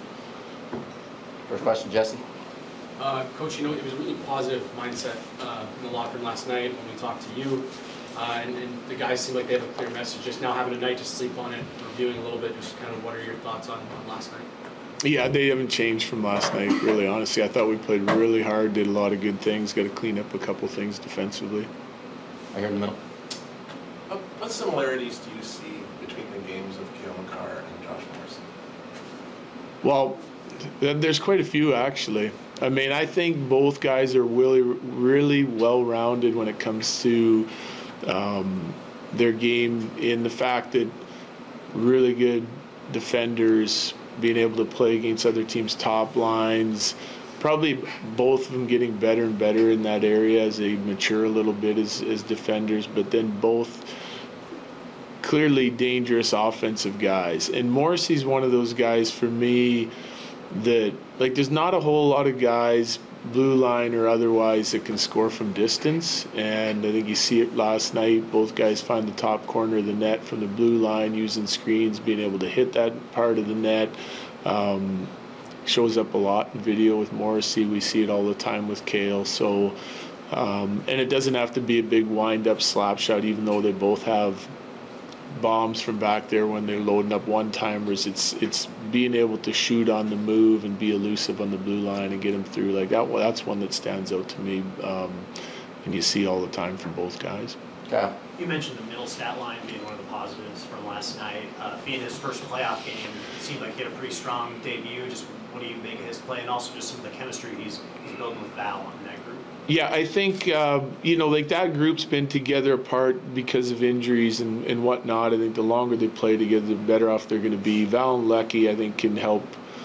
First question, Jesse. Coach, it was a really positive mindset in the locker room last night when we talked to you. And the guys seem like they have a clear message. Just now having a night to sleep on it, reviewing a little bit, just kind of what are your thoughts on last night? Yeah, they haven't changed from last night, really, honestly. I thought we played really hard, did a lot of good things, got to clean up a couple things defensively. Right here in the middle. What similarities do you see between the games of Cale Makar and Josh Morrissey? Well, there's quite a few, actually. I mean, I think both guys are really well-rounded when it comes to their game, in the fact that really good defenders, being able to play against other teams' top lines, probably both of them getting better and better in that area as they mature a little bit as defenders, but then both clearly dangerous offensive guys. And Morrissey's one of those guys for me that, like, there's not a whole lot of guys, blue line or otherwise, that can score from distance, and I think you see it last night. Both guys find the top corner of the net from the blue line, using screens, being able to hit that part of the net. Shows up a lot in video with Morrissey. We see it all the time with Cale. So, and it doesn't have to be a big wind-up slap shot, even though they both have bombs from back there when they're loading up one-timers. It's being able to shoot on the move and be elusive on the blue line and get them through like that. Well, that's one that stands out to me, and you see all the time from both guys. Kyle. You mentioned the middle stat line being one of the positives from last night. Being his first playoff game, it seemed like he had a pretty strong debut. Just what do you make of his play, and also just some of the chemistry he's building with Val in that group? Yeah, I think, like that group's been together apart because of injuries and whatnot. I think the longer they play together, the better off they're going to be. Val and Lecky, I think, can help,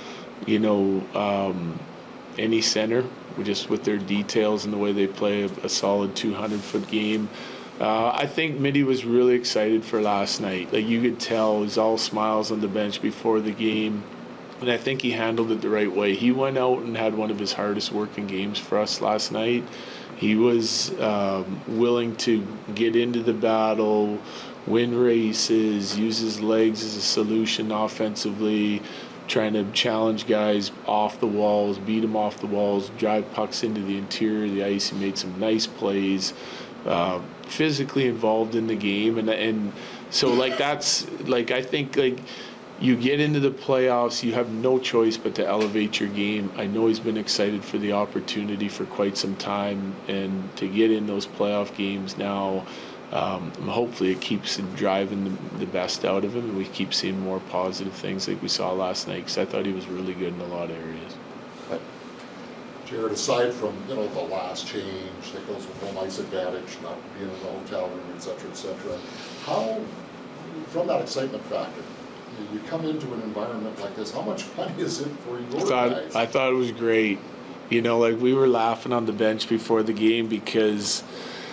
any center just with their details and the way they play a solid 200-foot game. I think Mitty was really excited for last night. Like, you could tell, it was all smiles on the bench before the game. And I think he handled it the right way. He went out and had one of his hardest working games for us last night. He was willing to get into the battle, win races, use his legs as a solution offensively, trying to challenge guys off the walls, beat them off the walls, drive pucks into the interior of the ice. He made some nice plays, physically involved in the game. And so, like, that's, like, I think, like, you get into the playoffs, you have no choice but to elevate your game. I know he's been excited for the opportunity for quite some time, and to get in those playoff games now, hopefully it keeps driving the best out of him, and we keep seeing more positive things like we saw last night, because I thought he was really good in a lot of areas. Jared, aside from the last change that goes with home ice advantage, not being in the hotel room, et cetera, how, from that excitement factor, you come into an environment like this, how much fun is it for your guys? I thought it was great. Like we were laughing on the bench before the game because,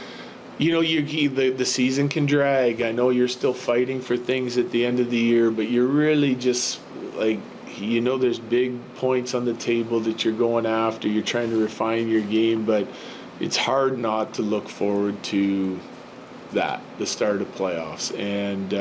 the season can drag. I know you're still fighting for things at the end of the year, but you're really just like, there's big points on the table that you're going after. You're trying to refine your game, but it's hard not to look forward to the start of playoffs. And,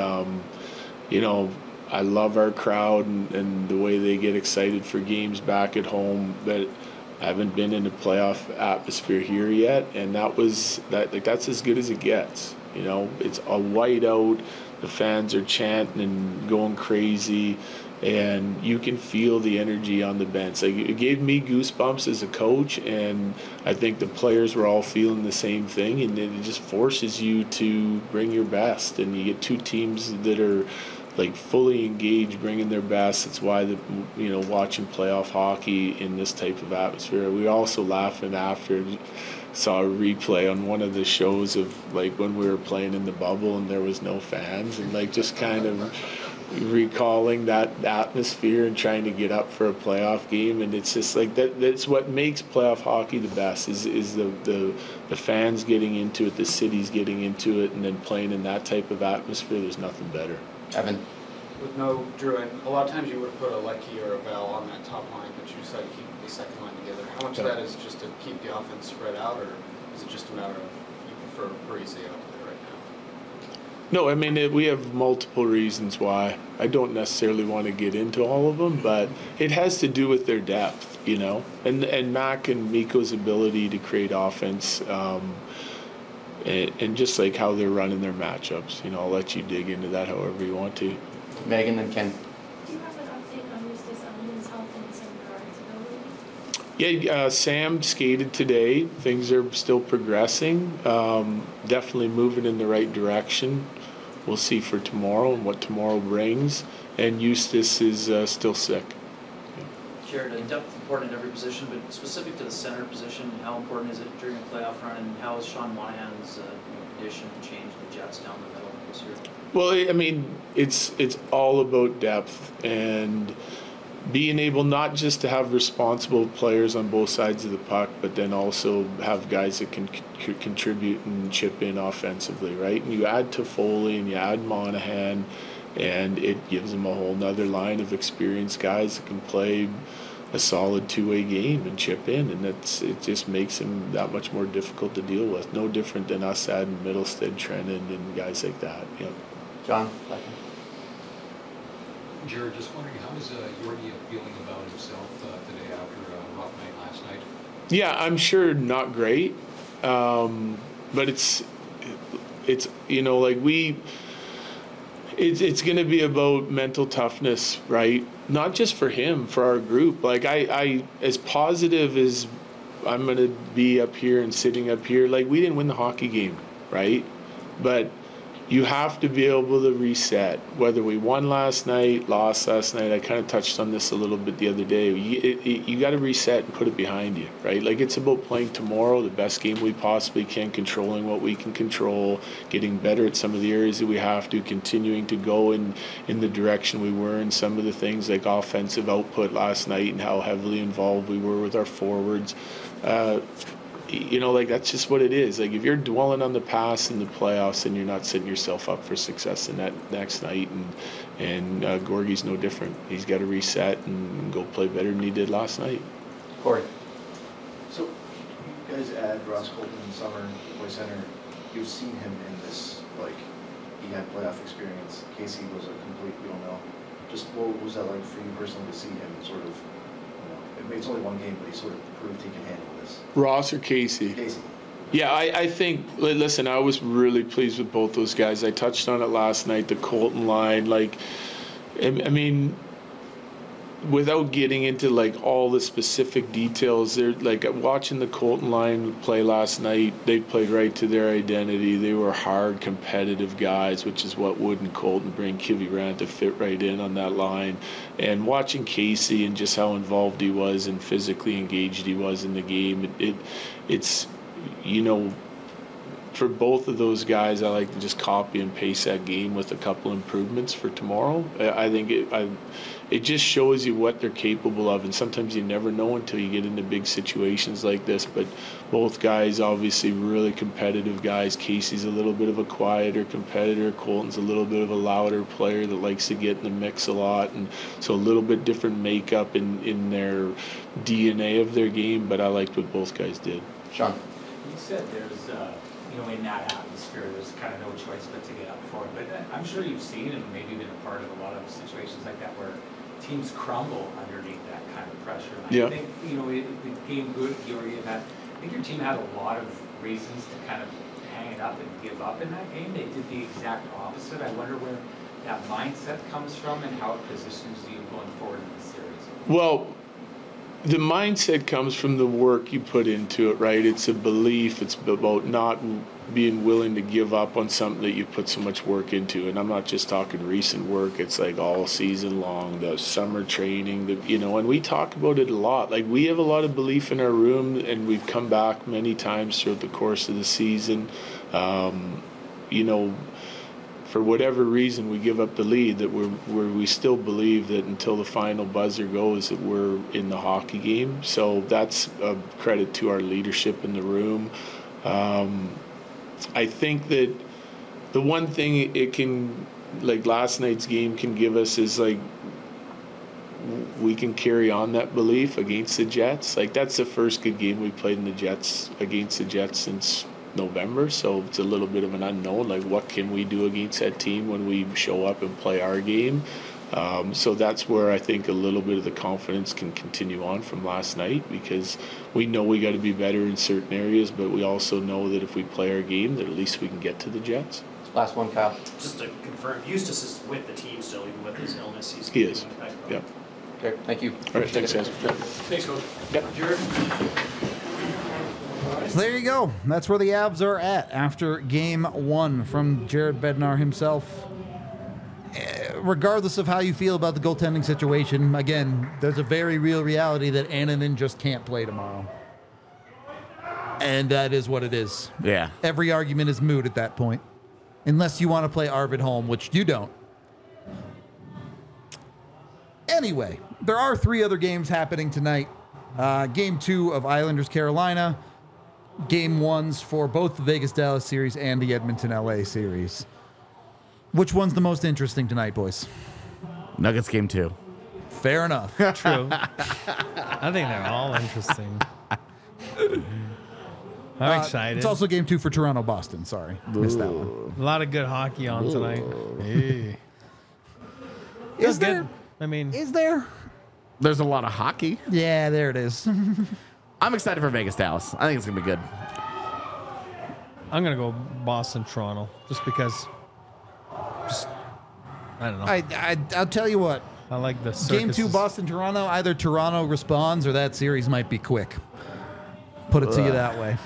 I love our crowd and the way they get excited for games back at home, but I haven't been in a playoff atmosphere here yet, and that's as good as it gets. It's a whiteout. The fans are chanting and going crazy, and you can feel the energy on the bench. Like, it gave me goosebumps as a coach, and I think the players were all feeling the same thing, and it just forces you to bring your best. And you get two teams that are like fully engaged, bringing their best. It's why watching playoff hockey in this type of atmosphere. We were also laughing after. Saw a replay on one of the shows of like when we were playing in the bubble and there was no fans, and like just kind of recalling that atmosphere and trying to get up for a playoff game. And it's just like that's what makes playoff hockey the best is the fans getting into it, the cities getting into it, and then playing in that type of atmosphere. There's nothing better. Evan? With no Drew, and a lot of times you would put a Lecky or a Bell on that top line, but you decided to keep the second line together. How much of that is just to keep the offense spread out, or is it just a matter of you prefer Parise out there right now? No, I mean, we have multiple reasons why. I don't necessarily want to get into all of them, but it has to do with their depth, and Mac and Mikko's ability to create offense, and just like how they're running their matchups. I'll let you dig into that however you want to. Megan and Ken. Do you have an update on Eustace Owens' health and some guards ability? Yeah, Sam skated today. Things are still progressing. Definitely moving in the right direction. We'll see for tomorrow and what tomorrow brings. And Eustace is still sick. Jared, depth important at every position, but specific to the center position, how important is it during a playoff run, and how has Sean Monahan's addition changed the Jets down the middle this year? Well, I mean, it's all about depth and being able not just to have responsible players on both sides of the puck, but then also have guys that can contribute and chip in offensively, right? And you add Toffoli and you add Monahan, and it gives them a whole nother line of experienced guys that can play a solid two-way game and chip in, and it just makes him that much more difficult to deal with. No different than us adding Middlestead, Trennan, and guys like that. Yep. John? Jared, just wondering, how is Yorkie feeling about himself today after a rough night last night? Yeah, I'm sure not great, but it's it's going to be about mental toughness, right? Not just for him, for our group. Like I as positive as I'm going to be up here and sitting up here, like we didn't win the hockey game, right? But you have to be able to reset. Whether we won last night, lost last night, I kind of touched on this a little bit the other day. You got to reset and put it behind you, right? Like it's about playing tomorrow the best game we possibly can, controlling what we can control, getting better at some of the areas that we have to, continuing to go in the direction we were in some of the things like offensive output last night and how heavily involved we were with our forwards. Like that's just what it is. Like if you're dwelling on the past in the playoffs, then you're not setting yourself up for success in that next night. And Gorgie's no different. He's got to reset and go play better than he did last night. Corey. So you guys add Ross Colton in the summer, Boy Center. You've seen him in this, like he had playoff experience. Casey was a complete we don't know. Just what was that like for you personally to see him sort of? It's only one game, but he sort of proved he can handle this. Ross or Casey? Casey. Yeah, I think, listen, I was really pleased with both those guys. I touched on it last night, the Colton line. Like, I mean, without getting into like all the specific details, they're like watching the Colton line play last night. They played right to their identity. They were hard, competitive guys, which is what Wood and Colton bring Kivy Rand to fit right in on that line. And watching Casey and just how involved he was and physically engaged he was in the game, it's you know. For both of those guys, I like to just copy and paste that game with a couple improvements for tomorrow. I think it just shows you what they're capable of, and sometimes you never know until you get into big situations like this. But both guys, obviously, really competitive guys. Casey's a little bit of a quieter competitor. Colton's a little bit of a louder player that likes to get in the mix a lot, and so a little bit different makeup in their DNA of their game. But I liked what both guys did. Sean. You said there's in that atmosphere, there's kind of no choice but to get up for it. But I'm sure you've seen and maybe been a part of a lot of situations like that where teams crumble underneath that kind of pressure. And I think, the game good, I think your team had a lot of reasons to kind of hang it up and give up in that game. They did the exact opposite. I wonder where that mindset comes from and how it positions you going forward in the series. Well, the mindset comes from the work you put into it, right? It's a belief. It's about not being willing to give up on something that you put so much work into. And I'm not just talking recent work. It's like all season long, the summer training, and we talk about it a lot. Like, we have a lot of belief in our room, and we've come back many times throughout the course of the season. For whatever reason, we give up the lead, that we still believe that until the final buzzer goes, that we're in the hockey game. So that's a credit to our leadership in the room. I think that the one thing it can, like last night's game can give us is like, we can carry on that belief against the Jets. Like, that's the first good game we played against the Jets since November, so it's a little bit of an unknown. Like, what can we do against that team when we show up and play our game? So that's where I think a little bit of the confidence can continue on from last night, because we know we got to be better in certain areas, but we also know that if we play our game, that at least we can get to the Jets. Last one, Kyle. Just to confirm, Eustace is with the team still, even with his illness. He is. Yeah. Okay. Thank you. All right. Thanks, guys. Thanks, Coach. Yep. Jared. So there you go. That's where the Avs are at after game one from Jared Bednar himself. Regardless of how you feel about the goaltending situation, again, there's a very real reality that Annunen just can't play tomorrow. And that is what it is. Yeah. Every argument is moot at that point. Unless you want to play Arvid Holm, which you don't. Anyway, there are 3 other games happening tonight. Game 2 of Islanders-Carolina. Game 1s for both the Vegas-Dallas series and the Edmonton-LA series. Which one's the most interesting tonight, boys? Nuggets game 2. Fair enough. True. I think they're all interesting. I'm excited. It's also game 2 for Toronto-Boston. Sorry. Missed that one. A lot of good hockey on tonight. Hey. Is there? Good. I mean, Is there? There's a lot of hockey. Yeah, there it is. I'm excited for Vegas Dallas. I think it's gonna be good. I'm gonna go Boston Toronto just because. I don't know. I'll tell you what. I like the Game 2 circuses. Boston Toronto. Either Toronto responds or that series might be quick. Put it to you that way.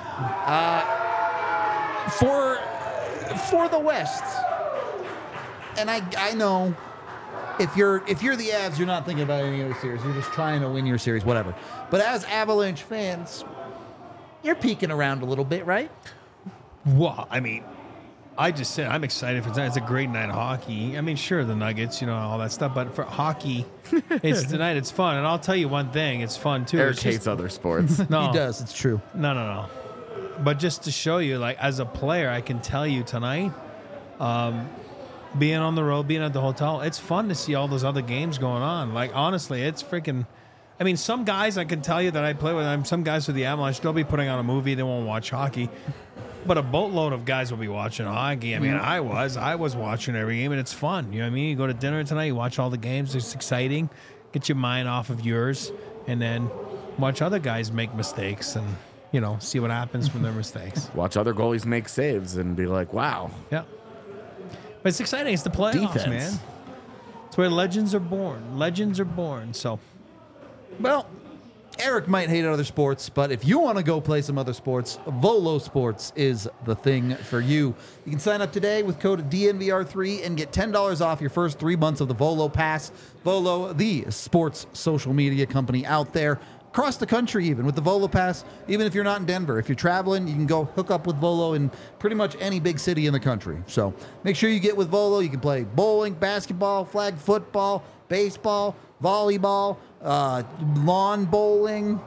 For the West, and I know if you're the Avs, you're not thinking about any other series. You're just trying to win your series, whatever. But as Avalanche fans, you're peeking around a little bit, right? Well, I mean, I just said I'm excited for tonight. It's a great night of hockey. I mean, sure, the Nuggets, all that stuff, but for hockey, it's tonight. It's fun, and I'll tell you one thing: it's fun too. Eric hates other sports. No, He does. It's true. No. But just to show you, like, as a player, I can tell you tonight, being on the road, being at the hotel, it's fun to see all those other games going on. Like, honestly, it's freaking. I mean, some guys I can tell you that I play with, some guys with the Avalanche, they'll be putting on a movie, they won't watch hockey. But a boatload of guys will be watching hockey. I mean, I was watching every game, and it's fun. You know what I mean? You go to dinner tonight, you watch all the games, it's exciting. Get your mind off of yours, and then watch other guys make mistakes and, see what happens from their mistakes. Watch other goalies make saves and be like, wow. Yeah. But it's exciting. It's the playoffs, Defense. man. It's where legends are born. Legends are born. So, Well, Eric might hate other sports, but if you want to go play some other sports, Volo Sports is the thing for you. You can sign up today with code DNVR3 and get $10 off your first 3 months of the Volo Pass. Volo, the sports social media company out there, across the country even, with the Volo Pass. Even if you're not in Denver, if you're traveling, you can go hook up with Volo in pretty much any big city in the country. So make sure you get with Volo. You can play bowling, basketball, flag football, baseball, volleyball, lawn bowling,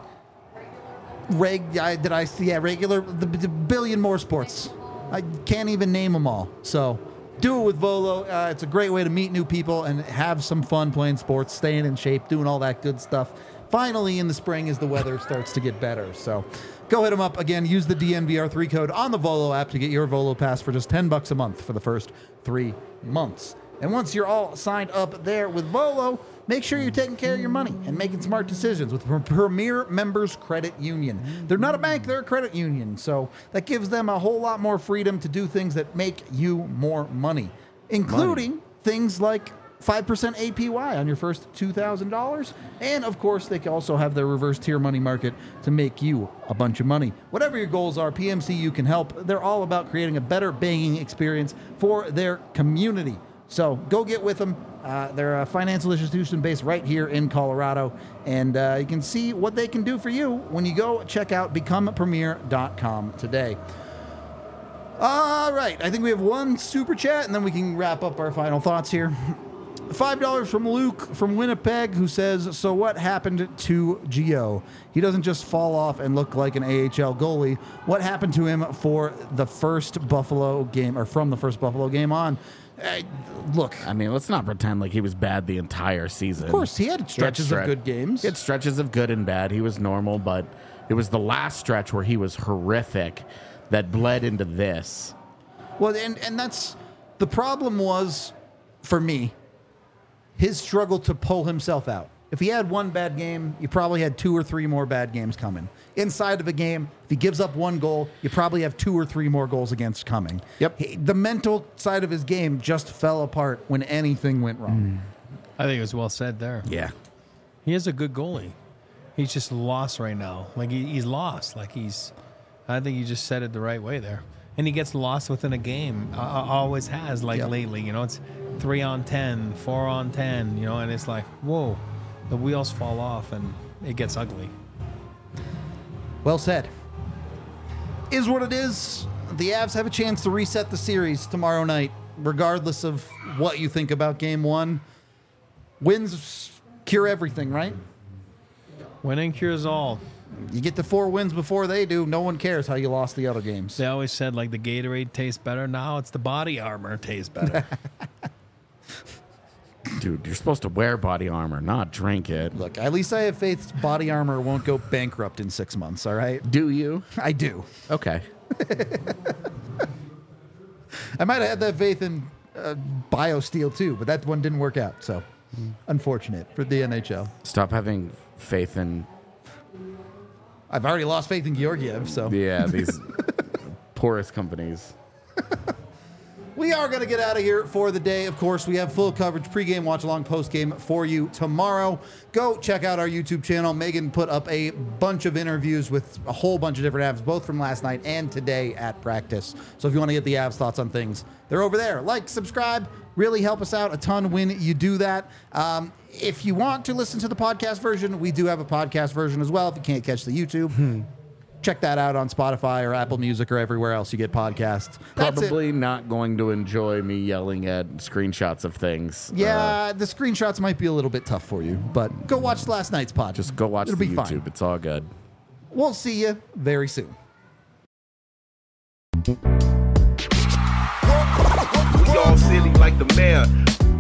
regular, the billion more sports. I can't even name them all. So do it with Volo. It's a great way to meet new people and have some fun playing sports, staying in shape, doing all that good stuff. Finally, in the spring, as the weather starts to get better. So go hit them up. Again, use the DNVR3 code on the Volo app to get your Volo Pass for just $10 a month for the first 3 months. And once you're all signed up there with Volo, make sure you're taking care of your money and making smart decisions with Premier Members Credit Union. They're not a bank, they're a credit union. So that gives them a whole lot more freedom to do things that make you more money, including things like 5% APY on your first $2,000. And of course, they can also have their reverse tier money market to make you a bunch of money. Whatever your goals are, PMCU can help. They're all about creating a better banking experience for their community. So go get with them. They're a financial institution based right here in Colorado. And you can see what they can do for you when you go check out becomepremier.com today. All right. I think we have one super chat, and then we can wrap up our final thoughts here. $5 from Luke from Winnipeg, who says, so what happened to Gio? He doesn't just fall off and look like an AHL goalie. What happened to him for the first Buffalo game, or from the first Buffalo game on? Look, I mean, let's not pretend like he was bad the entire season. Of course, he had stretches of good games. He had stretches of good and bad. He was normal, but it was the last stretch where he was horrific that bled into this. Well, and that's the problem was, for me, his struggle to pull himself out. If he had one bad game, you probably had 2 or 3 more bad games coming. Inside of a game, if he gives up 1 goal, you probably have 2 or 3 more goals against coming. Yep. The mental side of his game just fell apart when anything went wrong. I think it was well said there. Yeah. He is a good goalie. He's just lost right now. Like he's lost. I think you just said it the right way there. And he gets lost within a game. Always has, lately. You know, it's 3 on 10, 4 on 10, you know, and it's like, whoa, the wheels fall off and it gets ugly. Well said. Is what it is. The Avs have a chance to reset the series tomorrow night, regardless of what you think about game 1. Wins cure everything, right? Winning cures all. You get the 4 wins before they do. No one cares how you lost the other games. They always said, like, the Gatorade tastes better. Now it's the body armor tastes better. Dude, you're supposed to wear body armor, not drink it. Look, at least I have faith body armor won't go bankrupt in 6 months, all right? Do you? I do. Okay. I might have had that faith in BioSteel too, but that one didn't work out, so unfortunate for the NHL. Stop having faith in... I've already lost faith in Georgiev, so... Yeah, these poorest companies. We are going to get out of here for the day. Of course, we have full coverage, pregame, watch along, postgame for you tomorrow. Go check out our YouTube channel. Megan put up a bunch of interviews with a whole bunch of different Avs, both from last night and today at practice. So if you want to get the Avs thoughts on things, they're over there. Like, subscribe, really help us out a ton when you do that. If you want to listen to the podcast version, we do have a podcast version as well. If you can't catch the YouTube, check that out on Spotify or Apple Music or everywhere else you get podcasts. Probably not going to enjoy me yelling at screenshots of things. Yeah, the screenshots might be a little bit tough for you, but go watch last night's pod. Just go watch It'll the be YouTube. fine. It's all good. We'll see you very soon. We all silly like the mayor.